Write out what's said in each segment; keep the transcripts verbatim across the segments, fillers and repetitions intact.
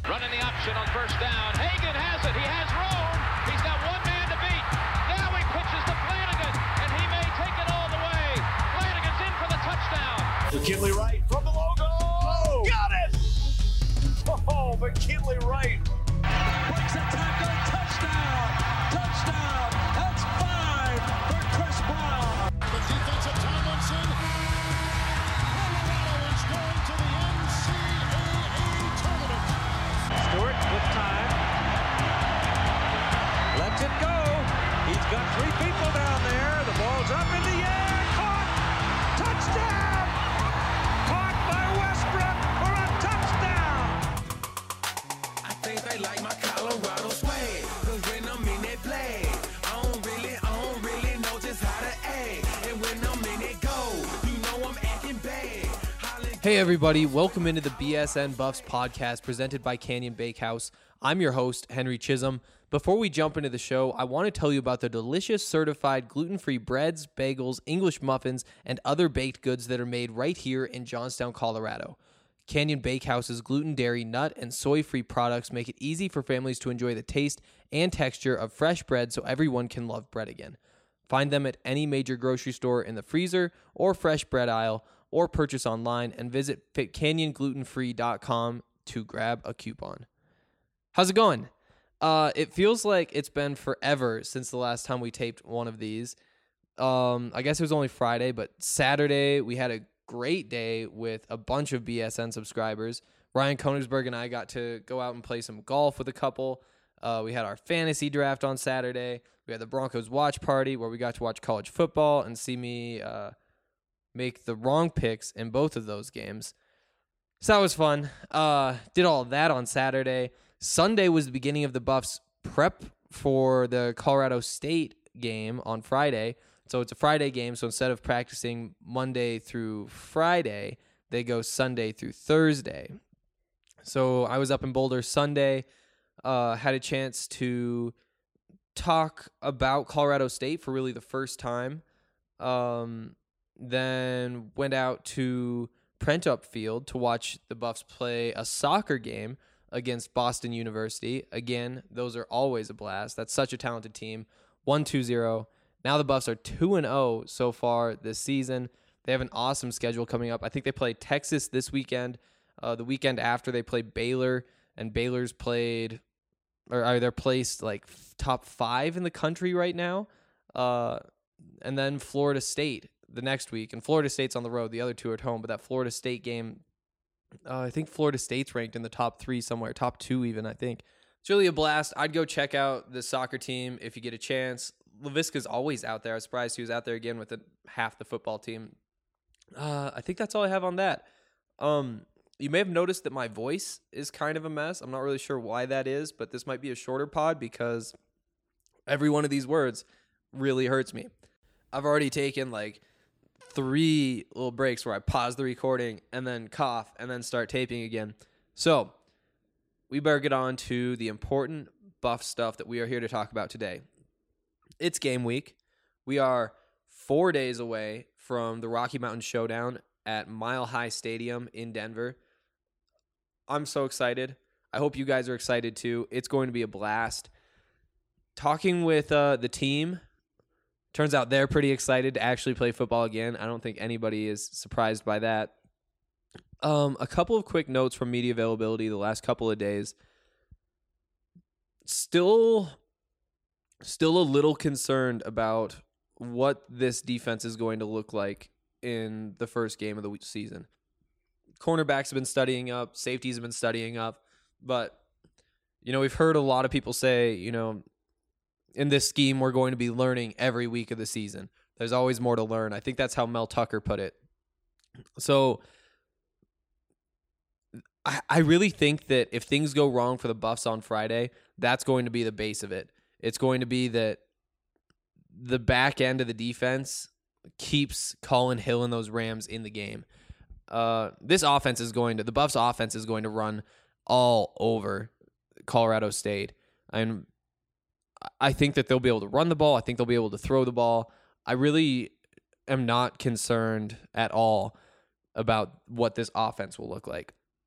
Running the option on first down. Hagan has it. He has room. He's got one man to beat. Now he pitches to Flanagan, and he may take it all the way. Flanagan's in for the touchdown. McKinley Wright from the logo. Oh, got it! Oh, McKinley Wright. Breaks a tackle. Touchdown. Touchdown. That's five for Chris Brown. The defensive Tomlinson. Colorado is going to the N C double A tournament. Stewart with time. Lets it go. He's got three people down there. The ball's up in the air. Caught. Touchdown. Caught by Westbrook for a touchdown. I think they like my Colorado swag. Cause when I'm in that play, I don't really, I don't really know just how to act. And when I'm in it go, you know I'm acting bad. Hollin- Hey everybody, welcome into the B S N Buffs podcast presented by Canyon Bakehouse. I'm your host, Henry Chisholm. Before we jump into the show, I want to tell you about the delicious certified gluten-free breads, bagels, English muffins, and other baked goods that are made right here in Johnstown, Colorado. Canyon Bakehouse's gluten, dairy, nut, and soy-free products make it easy for families to enjoy the taste and texture of fresh bread so everyone can love bread again. Find them at any major grocery store in the freezer or fresh bread aisle, or purchase online and visit canyon gluten free dot com to grab a coupon. How's it going? Uh, it feels like it's been forever since the last time we taped one of these. Um, I guess it was only Friday, but Saturday we had a great day with a bunch of B S N subscribers. Ryan Konigsberg and I got to go out and play some golf with a couple. Uh, we had our fantasy draft on Saturday. We had the Broncos watch party where we got to watch college football and see me uh, make the wrong picks in both of those games. So that was fun. Uh, did all of that on Saturday. Sunday was the beginning of the Buffs prep for the Colorado State game on Friday. So it's a Friday game, so instead of practicing Monday through Friday, they go Sunday through Thursday. So I was up in Boulder Sunday, uh, had a chance to talk about Colorado State for really the first time. Um, then went out to Prentup Field to watch the Buffs play a soccer game against Boston University. Again, those are always a blast. That's such a talented team. one two zero. Now the Buffs are two and oh so far this season. They have an awesome schedule coming up. I think they play Texas this weekend. Uh, the weekend after they play Baylor, and Baylor's played, or are they're placed like top five in the country right now. Uh, and then Florida State the next week. And Florida State's on the road. The other two are at home. But that Florida State game, uh, I think Florida State's ranked in the top three somewhere, top two even, I think. It's really a blast. I'd go check out the soccer team if you get a chance. LaVisca's always out there. I was surprised he was out there again with the, half the football team. Uh, I think that's all I have on that. Um, you may have noticed that my voice is kind of a mess. I'm not really sure why that is, but this might be a shorter pod because every one of these words really hurts me. I've already taken like three little breaks where I pause the recording and then cough and then start taping again. So we better get on to the important Buff stuff that we are here to talk about today. It's game week. We are four days away from the Rocky Mountain Showdown at Mile High Stadium in Denver. I'm so excited. I hope you guys are excited too. It's going to be a blast. Talking with uh, the team, turns out they're pretty excited to actually play football again. I don't think anybody is surprised by that. Um, a couple of quick notes from media availability the last couple of days. Still, still a little concerned about what this defense is going to look like in the first game of the season. Cornerbacks have been studying up, safeties have been studying up, but, you know, we've heard a lot of people say, you know, in this scheme, we're going to be learning every week of the season. There's always more to learn. I think that's how Mel Tucker put it. So I, I really think that if things go wrong for the Buffs on Friday, that's going to be the base of it. It's going to be that the back end of the defense keeps Colin Hill and those Rams in the game. Uh, this offense is going to, the Buffs offense is going to run all over Colorado State. And I think that they'll be able to run the ball. I think they'll be able to throw the ball. I really am not concerned at all about what this offense will look like.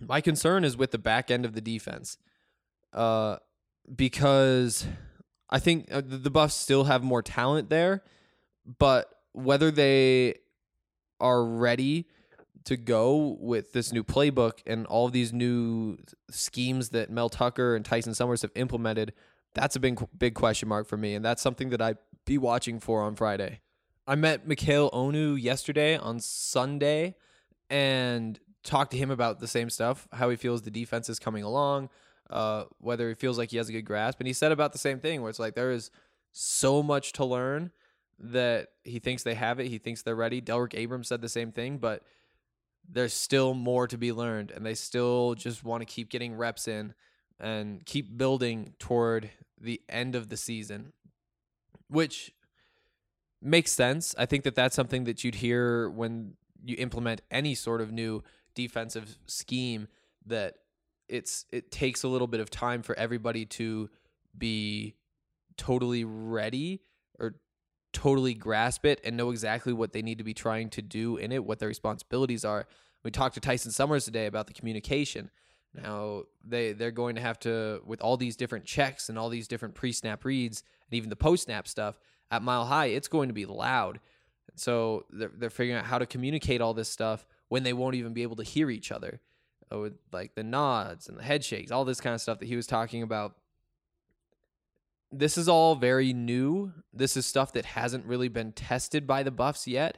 My concern is with the back end of the defense, uh, because I think the Buffs still have more talent there, but whether they are ready to go with this new playbook and all these new schemes that Mel Tucker and Tyson Summers have implemented, that's a big, big question mark for me, and that's something that I'd be watching for on Friday. I met Mikhail Onu yesterday on Sunday and talked to him about the same stuff, how he feels the defense is coming along, uh, whether he feels like he has a good grasp. And he said about the same thing, where it's like there is so much to learn that he thinks they have it. He thinks they're ready. Delrick Abrams said the same thing, but there's still more to be learned, and they still just want to keep getting reps in and keep building toward the end of the season, which makes sense. I think that that's something that you'd hear when you implement any sort of new defensive scheme, that it's it takes a little bit of time for everybody to be totally ready or totally grasp it and know exactly what they need to be trying to do in it, what their responsibilities are. We talked to Tyson Summers today about the communication. Now they they're going to have to, with all these different checks and all these different pre-snap reads and even the post-snap stuff at Mile High, it's going to be loud. So they're, they're figuring out how to communicate all this stuff when they won't even be able to hear each other, uh, with like the nods and the head shakes, all this kind of stuff that he was talking about. This is all very new. This is stuff that hasn't really been tested by the Buffs yet.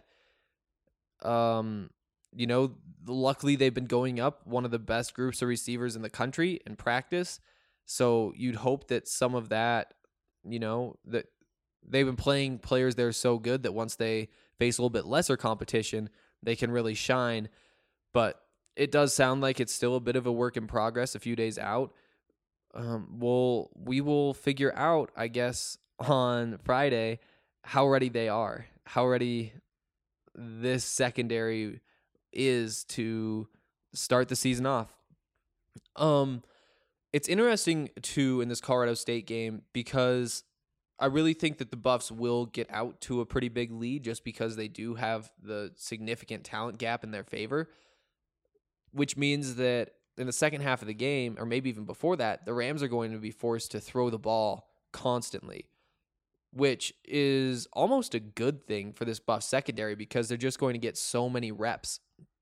Um, you know, luckily they've been going up one of the best groups of receivers in the country in practice. So you'd hope that some of that, you know, that they've been playing players that are so good that once they face a little bit lesser competition, they can really shine. But it does sound like it's still a bit of a work in progress a few days out. Um, we'll, we will figure out, I guess, on Friday how ready they are, how ready this secondary is to start the season off. Um, it's interesting, too, in this Colorado State game, because I really think that the Buffs will get out to a pretty big lead just because they do have the significant talent gap in their favor, which means that in the second half of the game, or maybe even before that, the Rams are going to be forced to throw the ball constantly, which is almost a good thing for this Buff secondary because they're just going to get so many reps.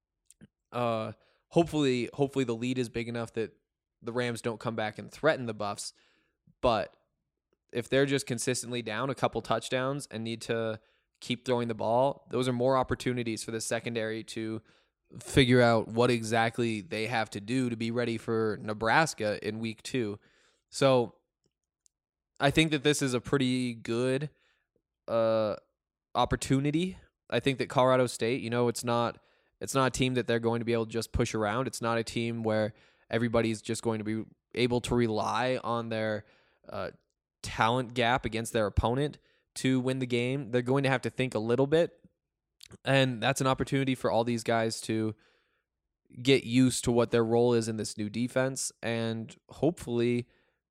Uh, hopefully, hopefully the lead is big enough that the Rams don't come back and threaten the Buffs, but if they're just consistently down a couple touchdowns and need to keep throwing the ball, those are more opportunities for the secondary to figure out what exactly they have to do to be ready for Nebraska in week two. So I think that this is a pretty good uh, opportunity. I think that Colorado State, you know, it's not it's not a team that they're going to be able to just push around. It's not a team where everybody's just going to be able to rely on their uh, talent gap against their opponent to win the game. They're going to have to think a little bit, and that's an opportunity for all these guys to get used to what their role is in this new defense and hopefully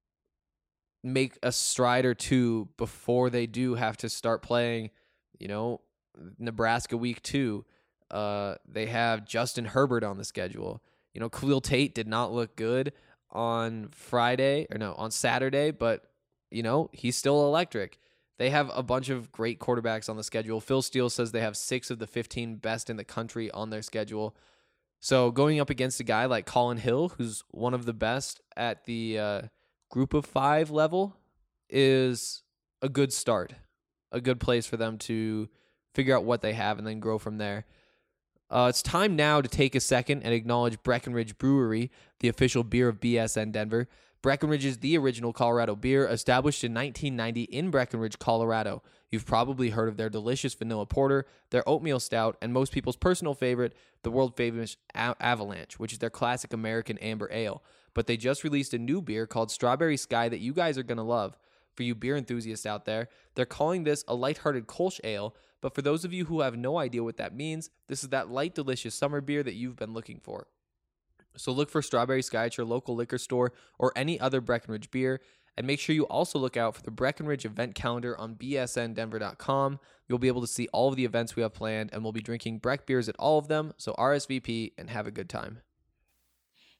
make a stride or two before they do have to start playing, you know, Nebraska week two. Uh, they have Justin Herbert on the schedule. You know, Khalil Tate did not look good on Friday, or no, on Saturday, but, you know, he's still electric. They have a bunch of great quarterbacks on the schedule. Phil Steele says they have six of the fifteen best in the country on their schedule. So going up against a guy like Colin Hill, who's one of the best at the uh, group of five level, is a good start, a good place for them to figure out what they have and then grow from there. Uh, it's time now to take a second and acknowledge Breckenridge Brewery, the official beer of B S N Denver. Breckenridge is the original Colorado beer, established in nineteen ninety in Breckenridge, Colorado. You've probably heard of their delicious vanilla porter, their oatmeal stout, and most people's personal favorite, the world-famous A- Avalanche, which is their classic American amber ale. But they just released a new beer called Strawberry Sky that you guys are going to love. For you beer enthusiasts out there, they're calling this a lighthearted Kolsch ale, but for those of you who have no idea what that means, this is that light, delicious summer beer that you've been looking for. So look for Strawberry Sky at your local liquor store or any other Breckenridge beer, and make sure you also look out for the Breckenridge event calendar on b s n denver dot com. You'll be able to see all of the events we have planned, and we'll be drinking Breck beers at all of them, so R S V P and have a good time.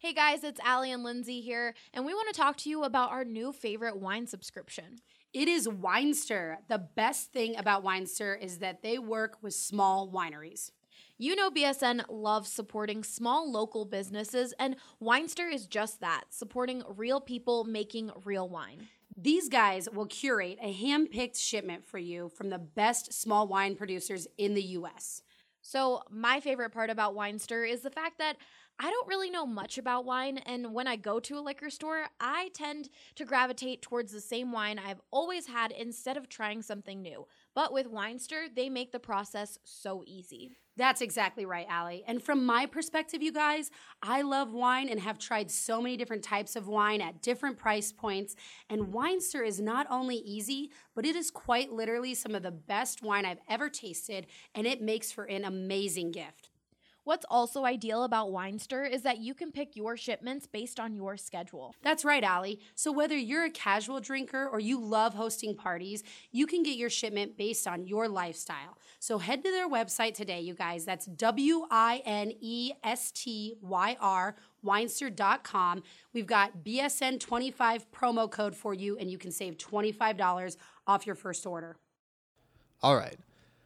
Hey guys, it's Allie and Lindsay here, and we want to talk to you about our new favorite wine subscription. It is Winester. The best thing about Winester is that they work with small wineries. You know B S N loves supporting small local businesses, and Winester is just that, supporting real people making real wine. These guys will curate a hand-picked shipment for you from the best small wine producers in the U S. So my favorite part about Winester is the fact that I don't really know much about wine, and when I go to a liquor store, I tend to gravitate towards the same wine I've always had instead of trying something new. But with Winester, they make the process so easy. That's exactly right, Allie. And from my perspective, you guys, I love wine and have tried so many different types of wine at different price points. And Winester is not only easy, but it is quite literally some of the best wine I've ever tasted, and it makes for an amazing gift. What's also ideal about Winester is that you can pick your shipments based on your schedule. That's right, Allie. So whether you're a casual drinker or you love hosting parties, you can get your shipment based on your lifestyle. So head to their website today, you guys. That's W I N E S T Y R, winester dot com. We've got B S N twenty-five promo code for you, and you can save twenty-five dollars off your first order. All right.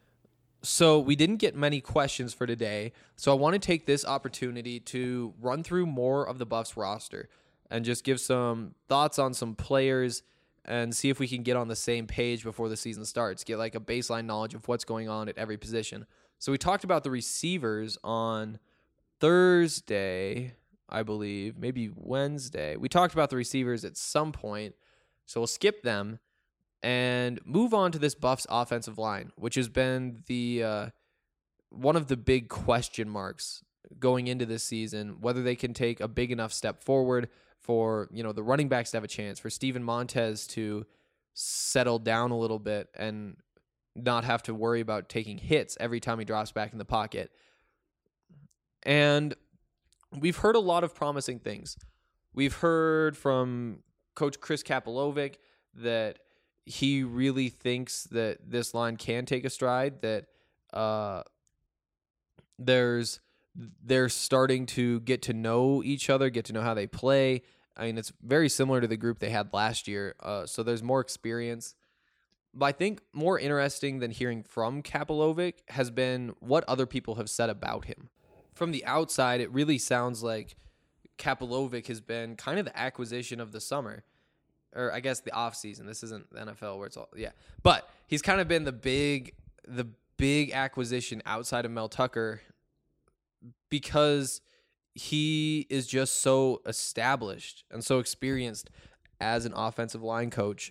So we didn't get many questions for today, so I want to take this opportunity to run through more of the Buffs roster and just give some thoughts on some players and see if we can get on the same page before the season starts, get like a baseline knowledge of what's going on at every position. So we talked about the receivers on Thursday, I believe, maybe Wednesday. We talked about the receivers at some point, so we'll skip them and move on to this Buffs offensive line, which has been the uh, one of the big question marks going into this season, whether they can take a big enough step forward for, you know, the running backs to have a chance, for Steven Montez to settle down a little bit and not have to worry about taking hits every time he drops back in the pocket. And we've heard a lot of promising things. We've heard from Coach Chris Kapilovic that he really thinks that this line can take a stride, that uh, there's they're starting to get to know each other, get to know how they play. I mean, it's very similar to the group they had last year, uh, so there's more experience. But I think more interesting than hearing from Kapilovic has been what other people have said about him. From the outside, it really sounds like Kapilovic has been kind of the acquisition of the summer. Or I guess the off season. This isn't the N F L where it's all yeah. But he's kind of been the big the big acquisition outside of Mel Tucker because he is just so established and so experienced as an offensive line coach.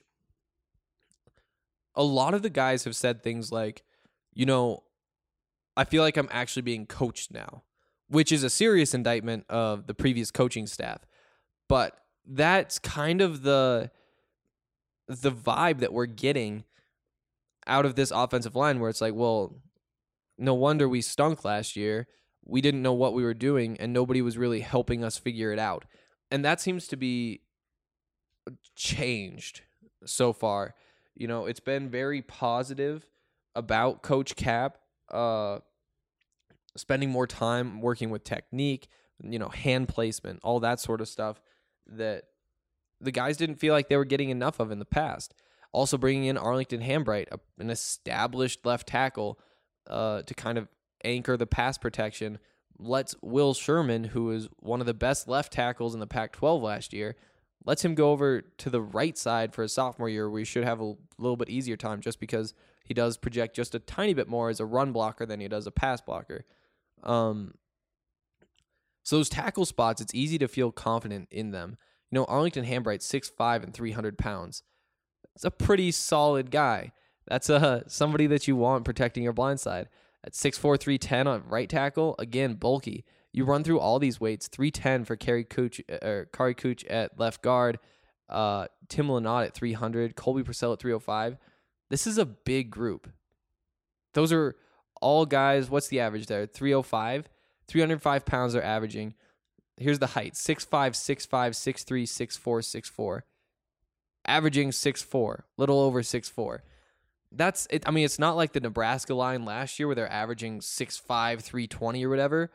A lot of the guys have said things like, you know, I feel like I'm actually being coached now, which is a serious indictment of the previous coaching staff. But that's kind of the the vibe that we're getting out of this offensive line, where it's like, well, no wonder we stunk last year. We didn't know what we were doing, and nobody was really helping us figure it out. And that seems to be changed so far. You know, it's been very positive about Coach Cap, uh, spending more time working with technique, you know, hand placement, all that sort of stuff that the guys didn't feel like they were getting enough of in the past. Also bringing in Arlington Hambright, a, an established left tackle, uh, to kind of anchor the pass protection, lets Will Sherman, who is one of the best left tackles in the Pac twelve last year, lets him go over to the right side for his sophomore year, where he should have a little bit easier time just because he does project just a tiny bit more as a run blocker than he does a pass blocker. Um, so those tackle spots, it's easy to feel confident in them. You know, Arlington Hambright, six five and three hundred pounds. That's a pretty solid guy. That's uh, somebody that you want protecting your blind side. At six four, three ten on right tackle, again, bulky. You run through all these weights, three ten for Kari Cooch, or Kari Cooch at left guard, uh, Tim Lynott at three hundred, Colby Purcell at three oh five. This is a big group. Those are all guys, what's the average there? three oh five? three hundred five pounds they're averaging. Here's the height, six five, six five, six three, six four, six four. Averaging six four, little over six four. That's it. I mean, it's not like the Nebraska line last year where they're averaging six five, three twenty or whatever,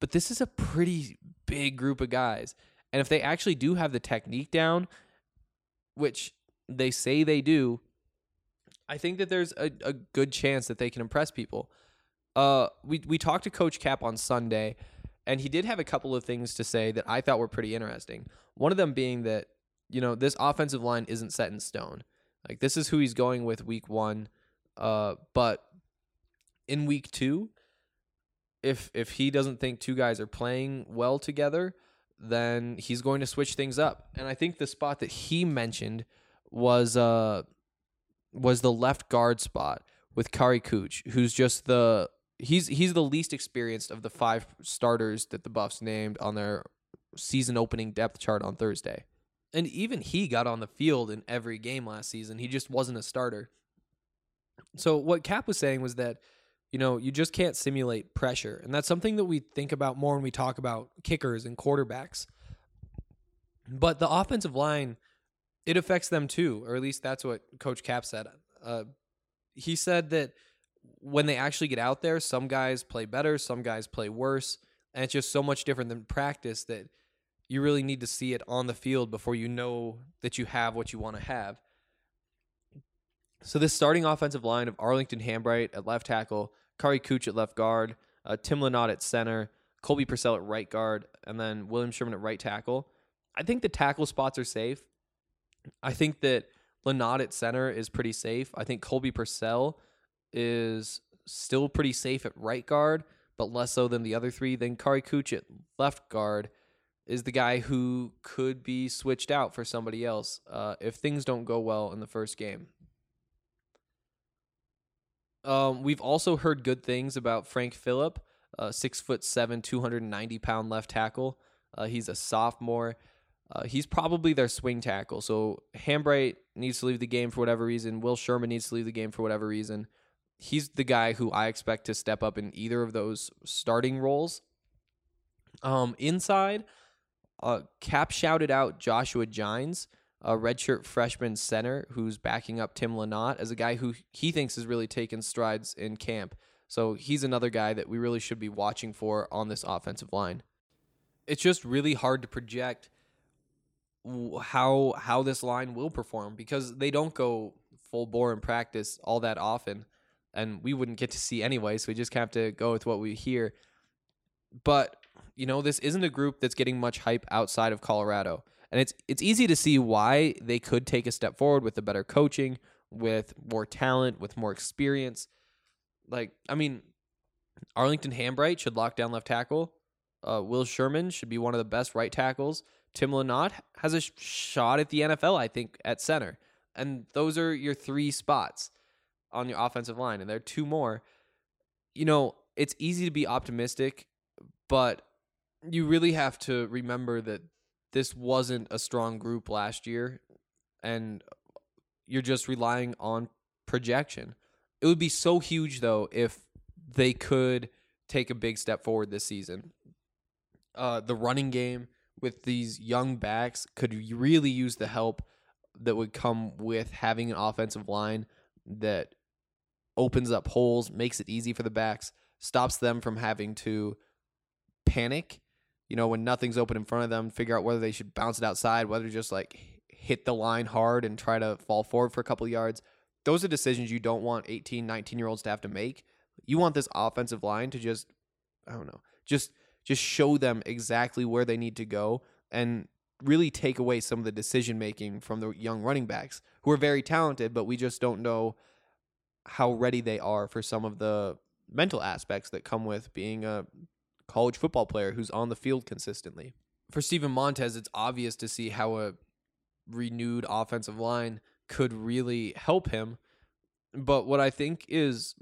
But this is a pretty big group of guys. And if they actually do have the technique down, which they say they do, I think that there's a, a good chance that they can impress people. Uh, we, we talked to Coach Cap on Sunday, and he did have a couple of things to say that I thought were pretty interesting. One of them being that, you know, this offensive line isn't set in stone. Like, this is who he's going with week one. Uh, but in week two, if if he doesn't think two guys are playing well together, then he's going to switch things up. And I think the spot that he mentioned was uh was the left guard spot with Kari Kuch, who's just the he's he's the least experienced of the five starters that the Buffs named on their season opening depth chart on Thursday. And even he got on the field in every game last season. He just wasn't a starter. So what Cap was saying was that, you know, you just can't simulate pressure. And that's something that we think about more when we talk about kickers and quarterbacks. But the offensive line, it affects them too, or at least that's what Coach Cap said. Uh, he said that when they actually get out there, some guys play better, some guys play worse, and it's just so much different than practice that you really need to see it on the field before you know that you have what you want to have. So this starting offensive line of Arlington Hambright at left tackle, Kari Kuch at left guard, uh, Tim Lynott at center, Colby Purcell at right guard, and then William Sherman at right tackle. I think the tackle spots are safe. I think that Lynott at center is pretty safe. I think Colby Purcell is still pretty safe at right guard, but less so than the other three. Then Kari Kuch at left guard is the guy who could be switched out for somebody else uh, if things don't go well in the first game. Um, we've also heard good things about Frank Phillip, uh, six foot seven, two hundred ninety pound left tackle. Uh, he's a sophomore. Uh, he's probably their swing tackle. So Hambright needs to leave the game for whatever reason. Will Sherman needs to leave the game for whatever reason. He's the guy who I expect to step up in either of those starting roles. Um, inside, uh, Cap shouted out Joshua Gines, a redshirt freshman center who's backing up Tim Lynott as a guy who he thinks has really taken strides in camp. So he's another guy that we really should be watching for on this offensive line. It's just really hard to project how how this line will perform because they don't go full bore in practice all that often, and we wouldn't get to see anyway, so we just have to go with what we hear. But, you know, this isn't a group that's getting much hype outside of Colorado. And it's it's easy to see why they could take a step forward with the better coaching, with more talent, with more experience. Like, I mean, Arlington Hambright should lock down left tackle. Uh, Will Sherman should be one of the best right tackles. Tim Lynott has a sh- shot at the N F L, I think, at center. And those are your three spots on your offensive line. And there are two more. You know, it's easy to be optimistic, but you really have to remember that this wasn't a strong group last year, and you're just relying on projection. It would be so huge, though, if they could take a big step forward this season. Uh, the running game with these young backs could really use the help that would come with having an offensive line that opens up holes, makes it easy for the backs, stops them from having to panic. You know, when nothing's open in front of them, figure out whether they should bounce it outside, whether just like hit the line hard and try to fall forward for a couple of yards. Those are decisions you don't want eighteen, nineteen-year-olds to have to make. You want this offensive line to just, I don't know, just just show them exactly where they need to go and really take away some of the decision-making from the young running backs who are very talented, but we just don't know how ready they are for some of the mental aspects that come with being a college football player who's on the field consistently. For Steven Montez, it's obvious to see how a renewed offensive line could really help him. But what I think is,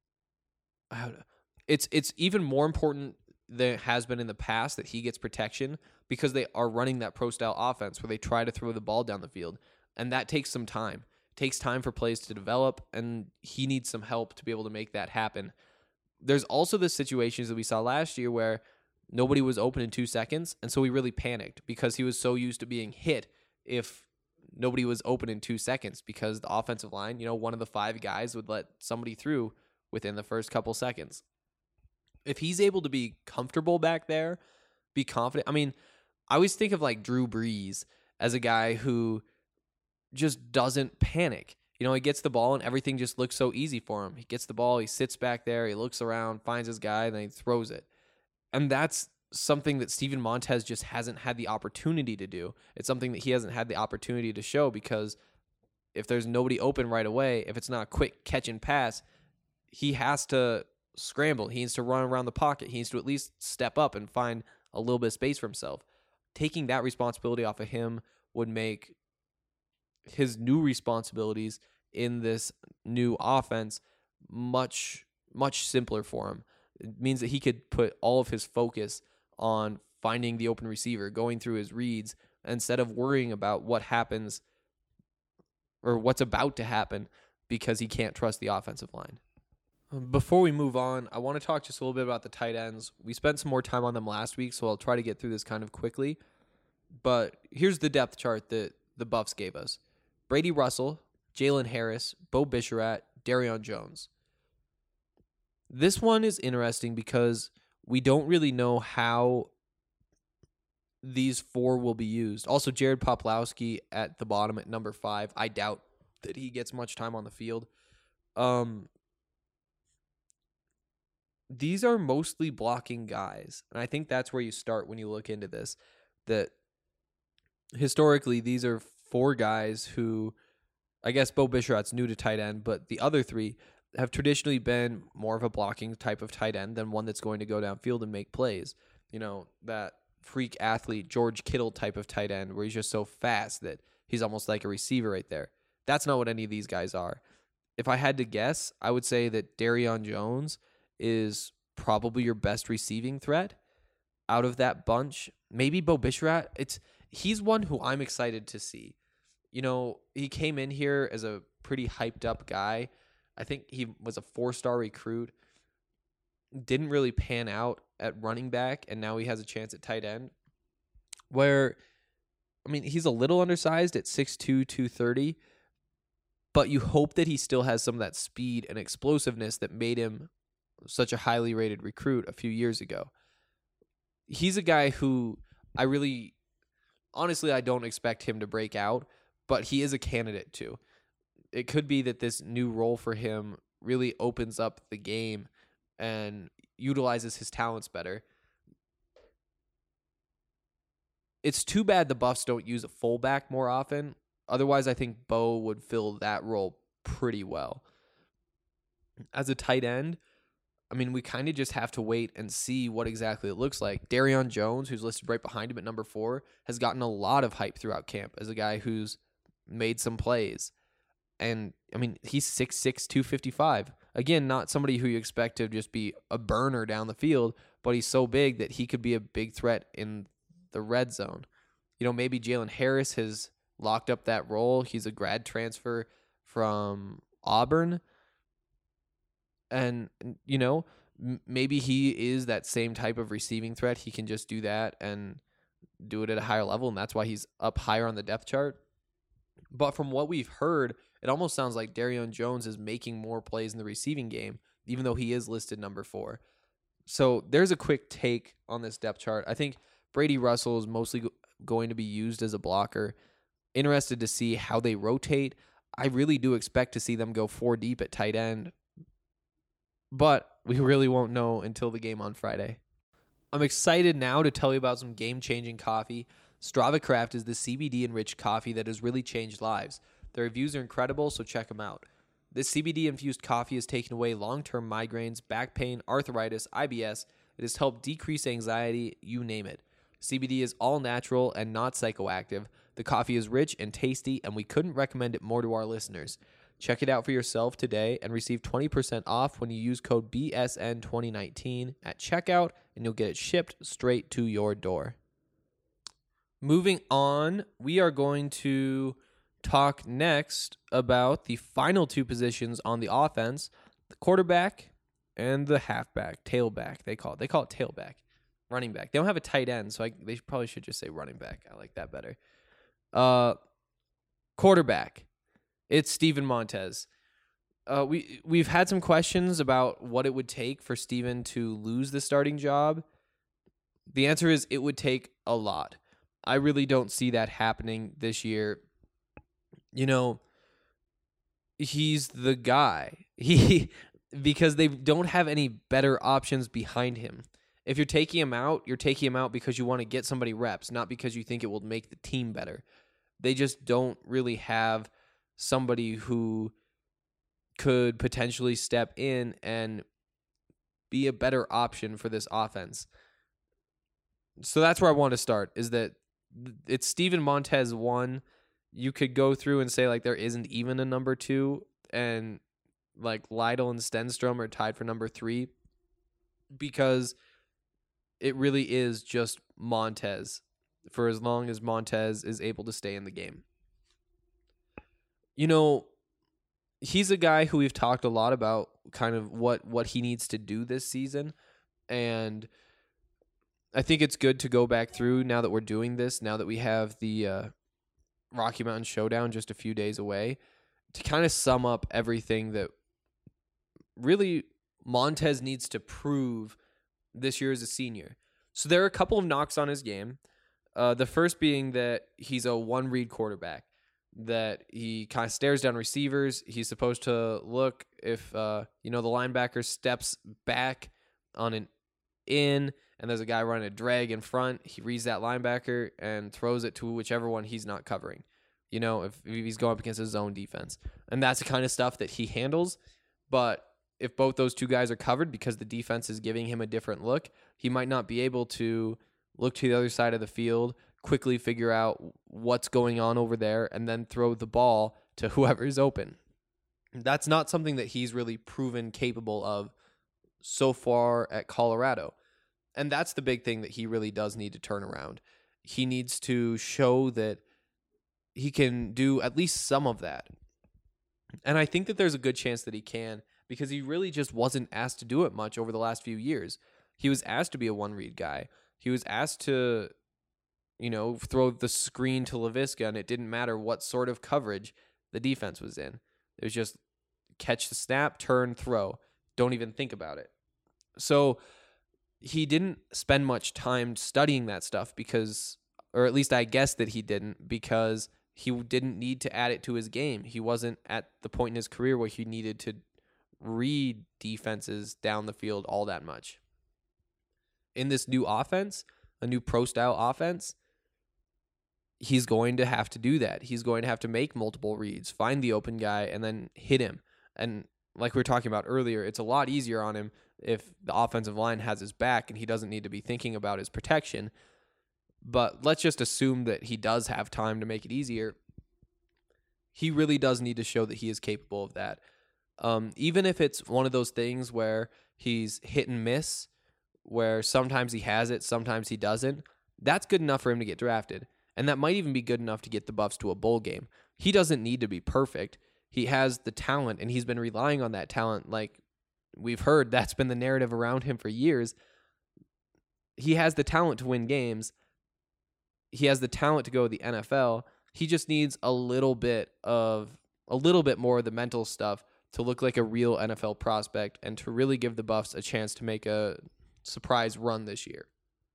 it's it's even more important than it has been in the past that he gets protection because they are running that pro-style offense where they try to throw the ball down the field. And that takes some time. It takes time for plays to develop, and he needs some help to be able to make that happen. There's also the situations that we saw last year where nobody was open in two seconds, and so he really panicked because he was so used to being hit if nobody was open in two seconds because the offensive line, you know, one of the five guys would let somebody through within the first couple seconds. if he's able to be comfortable back there, be confident. I mean, I always think of like Drew Brees as a guy who just doesn't panic. You know, he gets the ball and everything just looks so easy for him. He gets the ball, he sits back there, he looks around, finds his guy, and then he throws it. And that's something that Steven Montez just hasn't had the opportunity to do. It's something that he hasn't had the opportunity to show because if there's nobody open right away, if it's not a quick catch and pass, he has to scramble. He needs to run around the pocket. He needs to at least step up and find a little bit of space for himself. Taking that responsibility off of him would make his new responsibilities in this new offense much, much simpler for him. It means that he could put all of his focus on finding the open receiver, going through his reads, instead of worrying about what happens or what's about to happen because he can't trust the offensive line. Before we move on, I want to talk just a little bit about the tight ends. We spent some more time on them last week, so I'll try to get through this kind of quickly. But here's the depth chart that the Buffs gave us. Brady Russell, Jalen Harris, Bo Bichette, Darian Jones. This one is interesting because we don't really know how these four will be used. Also, Jared Poplowski at the bottom at number five. I doubt that he gets much time on the field. Um, these are mostly blocking guys, and I think that's where you start when you look into this. That historically, these are four guys who, I guess Bo Bichette's new to tight end, but the other three have traditionally been more of a blocking type of tight end than one that's going to go downfield and make plays. You know, that freak athlete, George Kittle type of tight end where he's just so fast that he's almost like a receiver right there. That's not what any of these guys are. If I had to guess, I would say that Darian Jones is probably your best receiving threat out of that bunch. Maybe Bo Bichette. It's he's one who I'm excited to see. You know, he came in here as a pretty hyped up guy. I think he was a four-star recruit. Didn't really pan out at running back, and now he has a chance at tight end. Where, I mean, he's a little undersized at six two, two thirty, but you hope that he still has some of that speed and explosiveness that made him such a highly rated recruit a few years ago. He's a guy who I really, honestly, I don't expect him to break out, but he is a candidate too. It could be that this new role for him really opens up the game and utilizes his talents better. It's too bad the Buffs don't use a fullback more often. Otherwise, I think Bo would fill that role pretty well. As a tight end, I mean, we kind of just have to wait and see what exactly it looks like. Darian Jones, who's listed right behind him at number four, has gotten a lot of hype throughout camp as a guy who's made some plays. And, I mean, he's six six, two fifty-five. Again, not somebody who you expect to just be a burner down the field, but he's so big that he could be a big threat in the red zone. You know, maybe Jalen Harris has locked up that role. He's a grad transfer from Auburn. And, you know, m- maybe he is that same type of receiving threat. He can just do that and do it at a higher level, and that's why he's up higher on the depth chart. But from what we've heard, it almost sounds like Darian Jones is making more plays in the receiving game, even though he is listed number four. So there's a quick take on this depth chart. I think Brady Russell is mostly go- going to be used as a blocker. Interested to see how they rotate. I really do expect to see them go four deep at tight end, but we really won't know until the game on Friday. I'm excited now to tell you about some game-changing coffee. Strava Craft is the C B D-enriched coffee that has really changed lives. Their reviews are incredible, so check them out. This C B D-infused coffee has taken away long-term migraines, back pain, arthritis, I B S. It has helped decrease anxiety, you name it. C B D is all natural and not psychoactive. The coffee is rich and tasty, and we couldn't recommend it more to our listeners. Check it out for yourself today and receive twenty percent off when you use code B S N twenty nineteen at checkout, and you'll get it shipped straight to your door. Moving on, we are going to talk next about the final two positions on the offense, the quarterback and the halfback, tailback, they call it. They call it tailback, running back. They don't have a tight end, so I, they probably should just say running back. I like that better. Uh, quarterback, it's Steven Montez. Uh, we we've had some questions about what it would take for Steven to lose the starting job. The answer is it would take a lot. I really don't see that happening this year. You know, he's the guy. He because they don't have any better options behind him. If you're taking him out, you're taking him out because you want to get somebody reps, not because you think it will make the team better. They just don't really have somebody who could potentially step in and be a better option for this offense. So that's where I want to start, is that it's Steven Montez one. You could go through and say, like, there isn't even a number two, and, like, Lytle and Stenstrom are tied for number three, because it really is just Montez for as long as Montez is able to stay in the game. You know, he's a guy who we've talked a lot about kind of what, what he needs to do this season. And I think it's good to go back through now that we're doing this, now that we have the uh, Rocky Mountain Showdown just a few days away, to kind of sum up everything that really Montez needs to prove this year as a senior. So there are a couple of knocks on his game. Uh, the first being that he's a one-read quarterback, that he kind of stares down receivers. He's supposed to look if, uh, you know, the linebacker steps back on an in and there's a guy running a drag in front. He reads that linebacker and throws it to whichever one he's not covering, you know, if, if he's going up against his zone defense. And that's the kind of stuff that he handles. But if both those two guys are covered because the defense is giving him a different look, he might not be able to look to the other side of the field, quickly figure out what's going on over there, and then throw the ball to whoever's open. That's not something that he's really proven capable of so far at Colorado. And that's the big thing that he really does need to turn around. He needs to show that he can do at least some of that. And I think that there's a good chance that he can, because he really just wasn't asked to do it much over the last few years. He was asked to be a one-read guy. He was asked to, you know, throw the screen to Laviska, and it didn't matter what sort of coverage the defense was in. It was just catch the snap, turn, throw. Don't even think about it. So he didn't spend much time studying that stuff because, or at least I guess that he didn't, because he didn't need to add it to his game. He wasn't at the point in his career where he needed to read defenses down the field all that much. In this new offense, a new pro-style offense, he's going to have to do that. He's going to have to make multiple reads, find the open guy, and then hit him. And like we were talking about earlier, it's a lot easier on him if the offensive line has his back and he doesn't need to be thinking about his protection. But let's just assume that he does have time to make it easier. He really does need to show that he is capable of that. Um, even if it's one of those things where he's hit and miss, where sometimes he has it, sometimes he doesn't, that's good enough for him to get drafted. And that might even be good enough to get the Buffs to a bowl game. He doesn't need to be perfect. He has the talent, and he's been relying on that talent. Like we've heard, that's been the narrative around him for years. He has the talent to win games. He has the talent to go to the N F L. He just needs a little bit of, a little bit more of the mental stuff to look like a real N F L prospect and to really give the Buffs a chance to make a surprise run this year.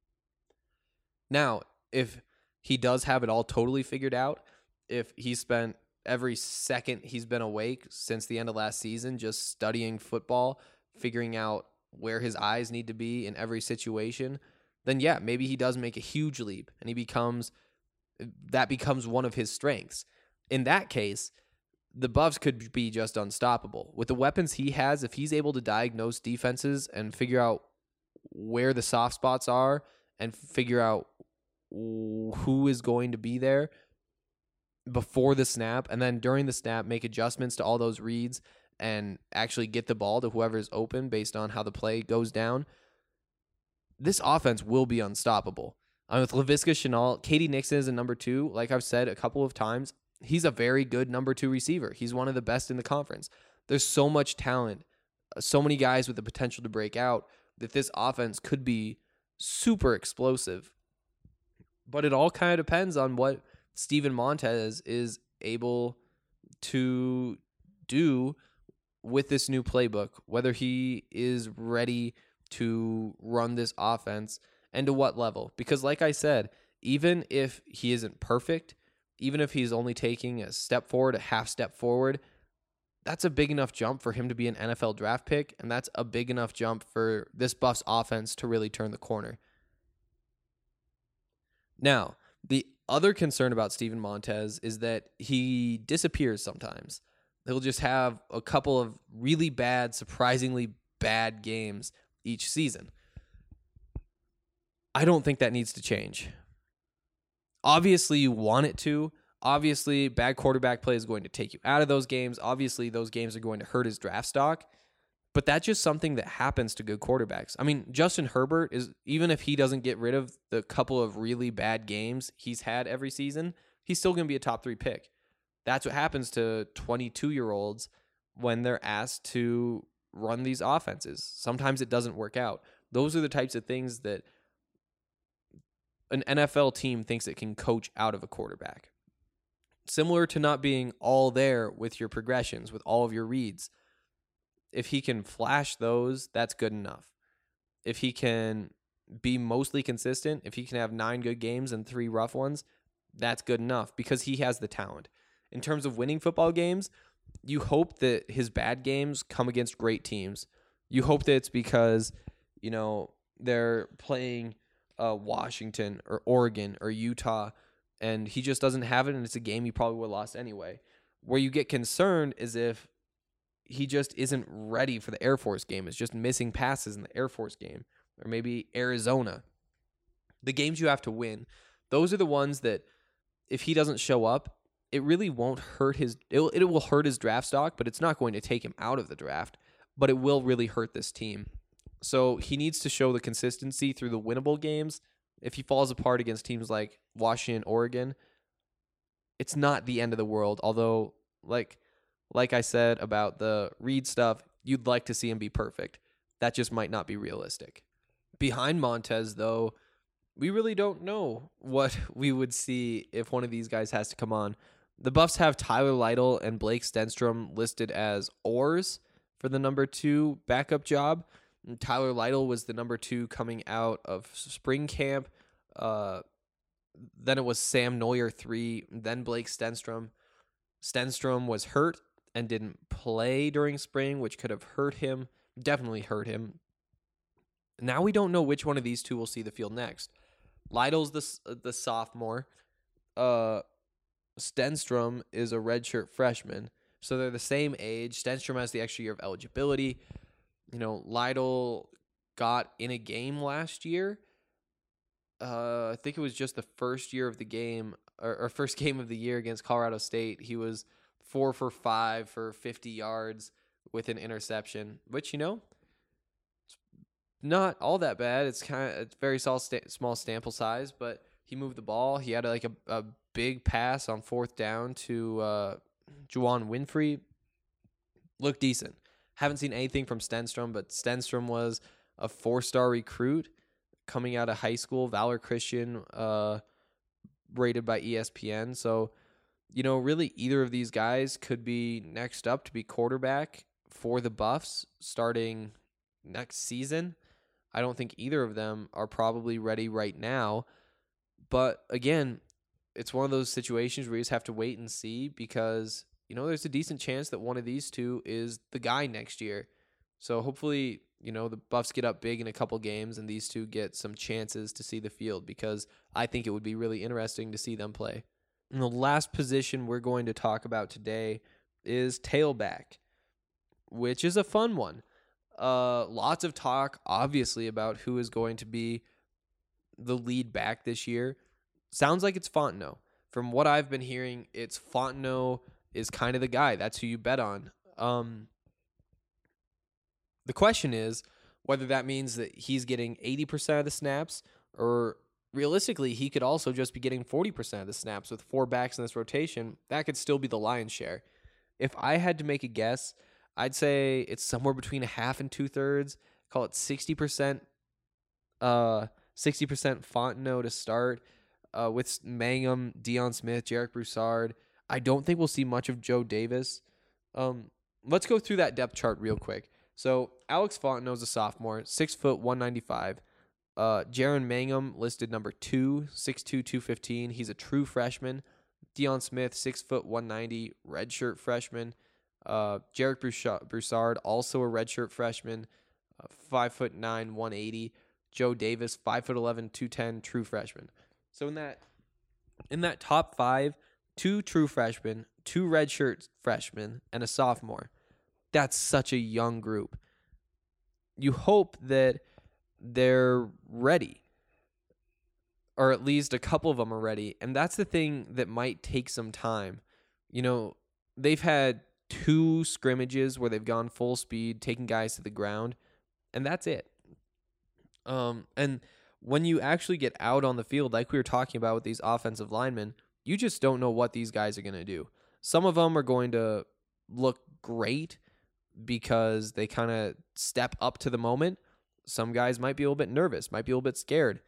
Now, if he does have it all totally figured out, if he spent every second he's been awake since the end of last season just studying football, figuring out where his eyes need to be in every situation, then yeah, maybe he does make a huge leap and he becomes, that becomes one of his strengths. In that case, the Buffs could be just unstoppable. With the weapons he has, if he's able to diagnose defenses and figure out where the soft spots are and figure out who is going to be there before the snap, and then during the snap make adjustments to all those reads and actually get the ball to whoever's open based on how the play goes down, this offense will be unstoppable. Um, with Laviska Shenault, Katie Nixon is a number two. Like I've said a couple of times, he's a very good number two receiver. He's one of the best in the conference. There's so much talent, so many guys with the potential to break out, that this offense could be super explosive. But it all kind of depends on what Steven Montez is able to do with this new playbook, whether he is ready to run this offense and to what level. Because like I said, even if he isn't perfect, even if he's only taking a step forward, a half step forward, that's a big enough jump for him to be an N F L draft pick, and that's a big enough jump for this Buffs offense to really turn the corner. Now, the other concern about Steven Montez is that he disappears sometimes. He'll just have a couple of really bad, surprisingly bad games each season. I don't think that needs to change. Obviously, you want it to. Obviously, bad quarterback play is going to take you out of those games. Obviously, those games are going to hurt his draft stock. But that's just something that happens to good quarterbacks. I mean, Justin Herbert is, even if he doesn't get rid of the couple of really bad games he's had every season, he's still going to be a top three pick. That's what happens to twenty-two-year-olds when they're asked to run these offenses. Sometimes it doesn't work out. Those are the types of things that an N F L team thinks it can coach out of a quarterback. Similar to not being all there with your progressions, with all of your reads. If he can flash those, that's good enough. If he can be mostly consistent, if he can have nine good games and three rough ones, that's good enough because he has the talent. In terms of winning football games, you hope that his bad games come against great teams. You hope that it's because, you know, they're playing uh, Washington or Oregon or Utah, and he just doesn't have it, and it's a game he probably would have lost anyway. Where you get concerned is if he just isn't ready for the Air Force game. It's just missing passes in the Air Force game. Or maybe Arizona. The games you have to win, those are the ones that if he doesn't show up, it really won't hurt his, it will, it will hurt his draft stock, but it's not going to take him out of the draft, but it will really hurt this team. So he needs to show the consistency through the winnable games. If he falls apart against teams like Washington, Oregon, it's not the end of the world. Although, like, like I said about the Reed stuff, you'd like to see him be perfect. That just might not be realistic. Behind Montez, though, we really don't know what we would see if one of these guys has to come on. The Buffs have Tyler Lytle and Blake Stenstrom listed as oars for the number two backup job. And Tyler Lytle was the number two coming out of spring camp. Uh, then it was Sam Neuer three, then Blake Stenstrom. Stenstrom was hurt and didn't play during spring, which could have hurt him, definitely hurt him. Now we don't know which one of these two will see the field next. Lytle's the, the sophomore. Uh, Stenstrom is a redshirt freshman, so they're the same age. Stenstrom has the extra year of eligibility. You know, Lytle got in a game last year. Uh, I think it was just the first year of the game, or, or first game of the year against Colorado State. He was four for five for fifty yards with an interception, which, you know, it's not all that bad. It's kind of it's very small, small sample size, but he moved the ball. He had like a, a big pass on fourth down to uh, Juwan Winfrey. Looked decent. Haven't seen anything from Stenstrom, but Stenstrom was a four-star recruit coming out of high school, Valor Christian, uh, rated by E S P N. So, you know, really either of these guys could be next up to be quarterback for the Buffs starting next season. I don't think either of them are probably ready right now. But again, it's one of those situations where you just have to wait and see because, you know, there's a decent chance that one of these two is the guy next year. So hopefully, you know, the Buffs get up big in a couple games and these two get some chances to see the field because I think it would be really interesting to see them play. And the last position we're going to talk about today is tailback, which is a fun one. Uh, lots of talk, obviously, about who is going to be the lead back this year. Sounds like it's Fontenot. From what I've been hearing, it's Fontenot is kind of the guy. That's who you bet on. Um, the question is whether that means that he's getting eighty percent of the snaps or realistically, he could also just be getting forty percent of the snaps with four backs in this rotation. That could still be the lion's share. If I had to make a guess, I'd say it's somewhere between a half and two-thirds. Call it sixty percent uh, sixty percent Fontenot to start uh, with Mangum, Deion Smith, Jarek Broussard. I don't think we'll see much of Joe Davis. Um, let's go through that depth chart real quick. So Alex Fontenot's a sophomore, six foot one ninety-five. Uh, Jaron Mangum listed number two, six two, two fifteen. He's a true freshman. Deion Smith, six foot one ninety, redshirt freshman. Uh, Jarek Broussard, also a redshirt freshman, uh, five foot nine, one eighty. Joe Davis, five foot eleven, two ten, true freshman. So in that in that top five, two true freshmen, two redshirt freshmen, and a sophomore. That's such a young group. You hope that they're ready, or at least a couple of them are ready. And that's the thing that might take some time. You know, they've had two scrimmages where they've gone full speed, taking guys to the ground, and that's it. Um, and when you actually get out on the field, like we were talking about with these offensive linemen, you just don't know what these guys are going to do. Some of them are going to look great because they kind of step up to the moment. Some guys might be a little bit nervous, might be a little bit scared.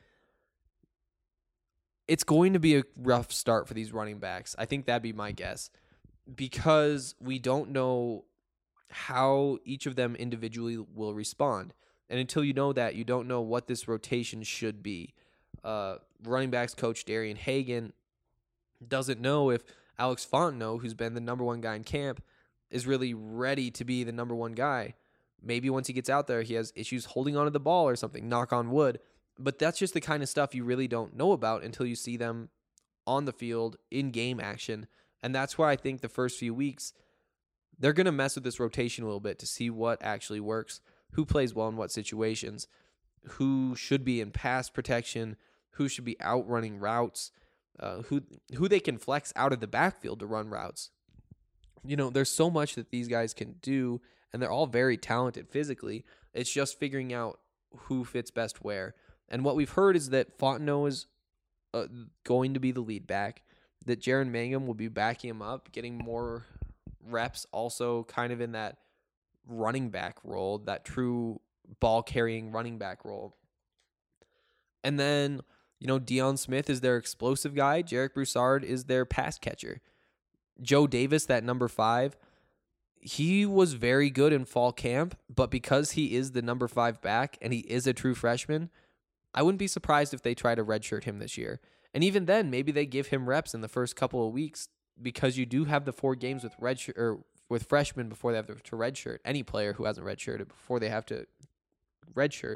It's going to be a rough start for these running backs. I think that'd be my guess, because we don't know how each of them individually will respond. And until you know that, you don't know what this rotation should be. Uh, running backs coach Darian Hagan doesn't know if Alex Fontenot, who's been the number one guy in camp, is really ready to be the number one guy. Maybe once he gets out there, he has issues holding onto the ball or something, knock on wood. But that's just the kind of stuff you really don't know about until you see them on the field in game action. And that's why I think the first few weeks, they're going to mess with this rotation a little bit to see what actually works, who plays well in what situations, who should be in pass protection, who should be outrunning routes, uh, who who they can flex out of the backfield to run routes. You know, there's so much that these guys can do, and they're all very talented physically. It's just figuring out who fits best where. And what we've heard is that Fontenot is uh, going to be the lead back, that Jaron Mangum will be backing him up, getting more reps, also kind of in that running back role, that true ball-carrying running back role. And then, you know, Deion Smith is their explosive guy. Jarek Broussard is their pass catcher. Joe Davis, that number five, he was very good in fall camp, but because he is the number five back and he is a true freshman, I wouldn't be surprised if they try to redshirt him this year. And even then, maybe they give him reps in the first couple of weeks, because you do have the four games with redshirt or with freshmen before they have to redshirt. Any player who hasn't redshirted before they have to redshirt.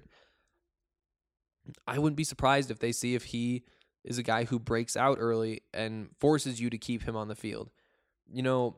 I wouldn't be surprised if they see if he is a guy who breaks out early and forces you to keep him on the field. You know,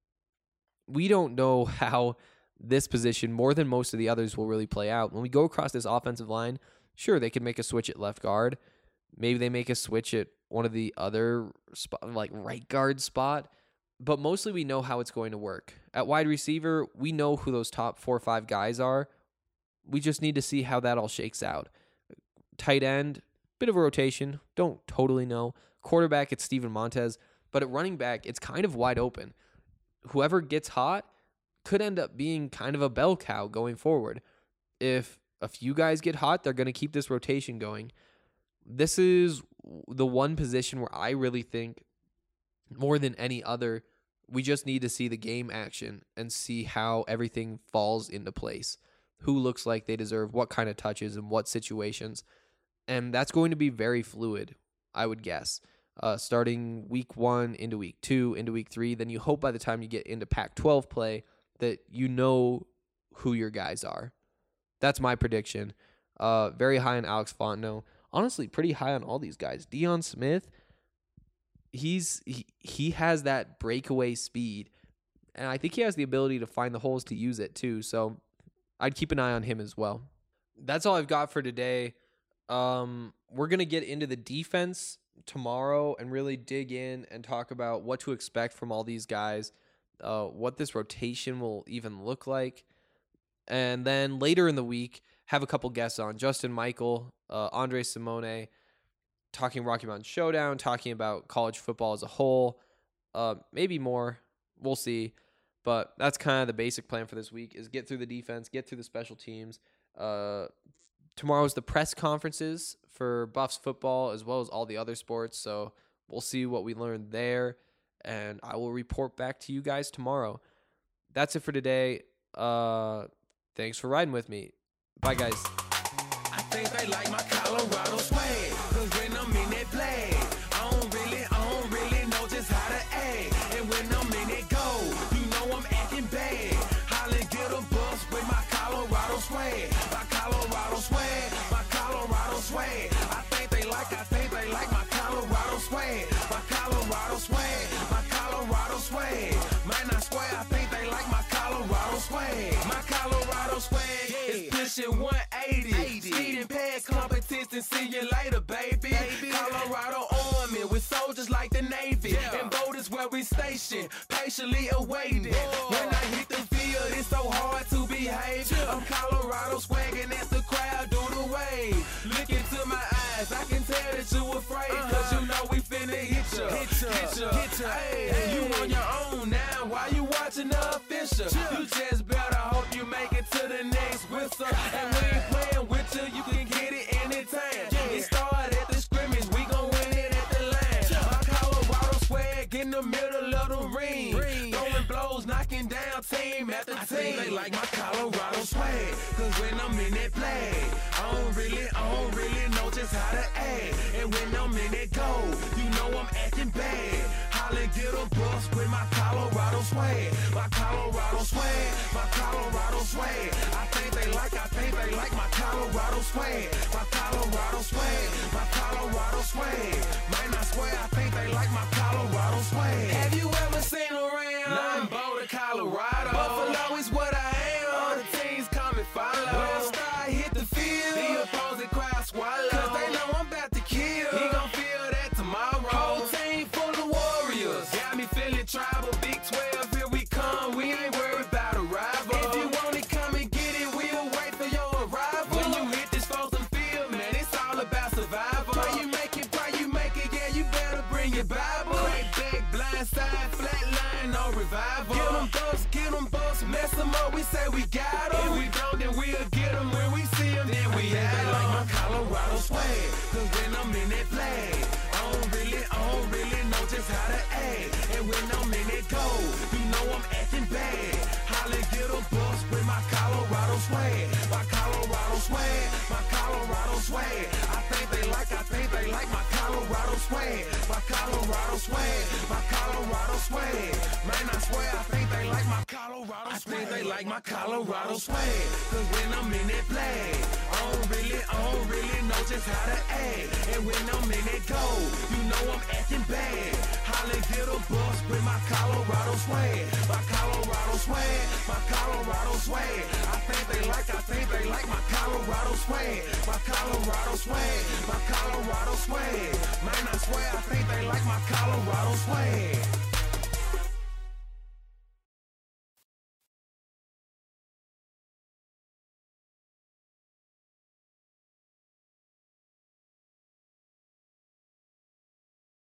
we don't know how this position, more than most of the others, will really play out. When we go across this offensive line, sure, they could make a switch at left guard. Maybe they make a switch at one of the other, spot, like right guard spot. But mostly we know how it's going to work. At wide receiver, we know who those top four or five guys are. We just need to see how that all shakes out. Tight end, bit of a rotation. Don't totally know. Quarterback, it's Steven Montez. But at running back, it's kind of wide open. Whoever gets hot could end up being kind of a bell cow going forward. If a few guys get hot, they're going to keep this rotation going. This is the one position where I really think, more than any other, we just need to see the game action and see how everything falls into place. Who looks like they deserve what kind of touches and what situations. And that's going to be very fluid, I would guess. Uh, starting week one into week two, into week three, then you hope by the time you get into Pac twelve play that you know who your guys are. That's my prediction. Uh, very high on Alex Fontenot. Honestly, pretty high on all these guys. Deion Smith, he's he, he has that breakaway speed, and I think he has the ability to find the holes to use it too. So I'd keep an eye on him as well. That's all I've got for today. Um, we're gonna get into the defense tomorrow and really dig in and talk about what to expect from all these guys, uh, what this rotation will even look like. And then later in the week, have a couple guests on. Justin Michael, uh, Andre Simone, talking Rocky Mountain Showdown, talking about college football as a whole. Uh, maybe more. We'll see. But that's kind of the basic plan for this week, is get through the defense, get through the special teams. Uh, tomorrow's the press conferences for Buffs football as well as all the other sports. So we'll see what we learned there, and I will report back to you guys tomorrow. That's it for today. Uh, thanks for riding with me. Bye, guys. I think they like my Colorado swag, cause when I'm in that play, I don't really, I don't really know just how to act. And when I'm in that go, you know I'm acting bad. Holla, get a bus with my Colorado swag, my Colorado swag, my Colorado swag. I think they like, I think they like my Colorado swag, my Colorado swag, my Colorado swag. Man, I swear, I think they like my Colorado swag, my Colorado swag is pushing one eighty. Speeding past competition, see you later, baby. baby. Colorado Army with soldiers like the Navy. Yeah. And boat is where we station, patiently awaiting. Whoa. When I hit the field, it's so hard to behave. Yeah. I'm Colorado swagging as the crowd do the wave. Look into my eyes, I can tell that you afraid. Uh-huh. Cause you know we finna hit ya, hit ya, hit ya. Hit ya. Hey, hey. You on your own now, why you watching the official? Yeah. You just better hope you make it to the next whistle. And we ain't playing with you, you can get it anytime. Yeah. It started at the scrimmage, we gon' win it at the line. Yeah. My Colorado swag in the middle of the ring. ring. Throwing blows, knocking down team after I team. They like my Colorado swag, cause when I'm in that play, I don't really, I don't really know just how to act. And when I'm in that go, you know I'm acting bad. Holla, get a bus with my Colorado swag, my Colorado swag, my Colorado swag. I think they like, I think they like my Colorado swag, my Colorado swag, my Colorado swag. Man, I swear, I think they like my Colorado swag. Have you ever seen around? Nothing Boulder, Colorado. Buffalo is what I am. All the teams come and follow. When I start hit the field, the opposing crowd swallow. Cause they know I'm about to kill. He gon' feel that tomorrow. Whole team full of warriors. Got me feeling tribal. Big twelve, here we come. We ain't worried about a rival. If you want it, come and get it. We'll wait for your arrival. When you hit this frozen field, man, it's all about survival. Pray you make it, pray you make it. Yeah, you better bring your Bible. Crack back, blind side, flat line, no revival. Get them bucks, get them bucks, mess them up. We say we got them. If we don't, then we'll get them. When we see them, then we have them. They like my Colorado swag, cause when I'm in that flag, I don't really, I don't really know just how to act. And when I'm in that go, you know I'm acting bad. Holla, get a bus with my Colorado swag, my Colorado swag, my Colorado swag. I think they like, I think they like my Colorado swag, my Colorado swag, my Colorado swag. Man, I swear, I think they like my Colorado swag. I think they like my Colorado swag, cause when I'm in that flag, I don't really, I don't really know just how to act. And when I'm in that go, you know I'm acting bad. Holla, get a bus with my Colorado swag, my Colorado swag, my Colorado swag. I think they like, I think they like my Colorado swag, my Colorado swag, my Colorado swag. Man, I swear, I think they like my Colorado swag.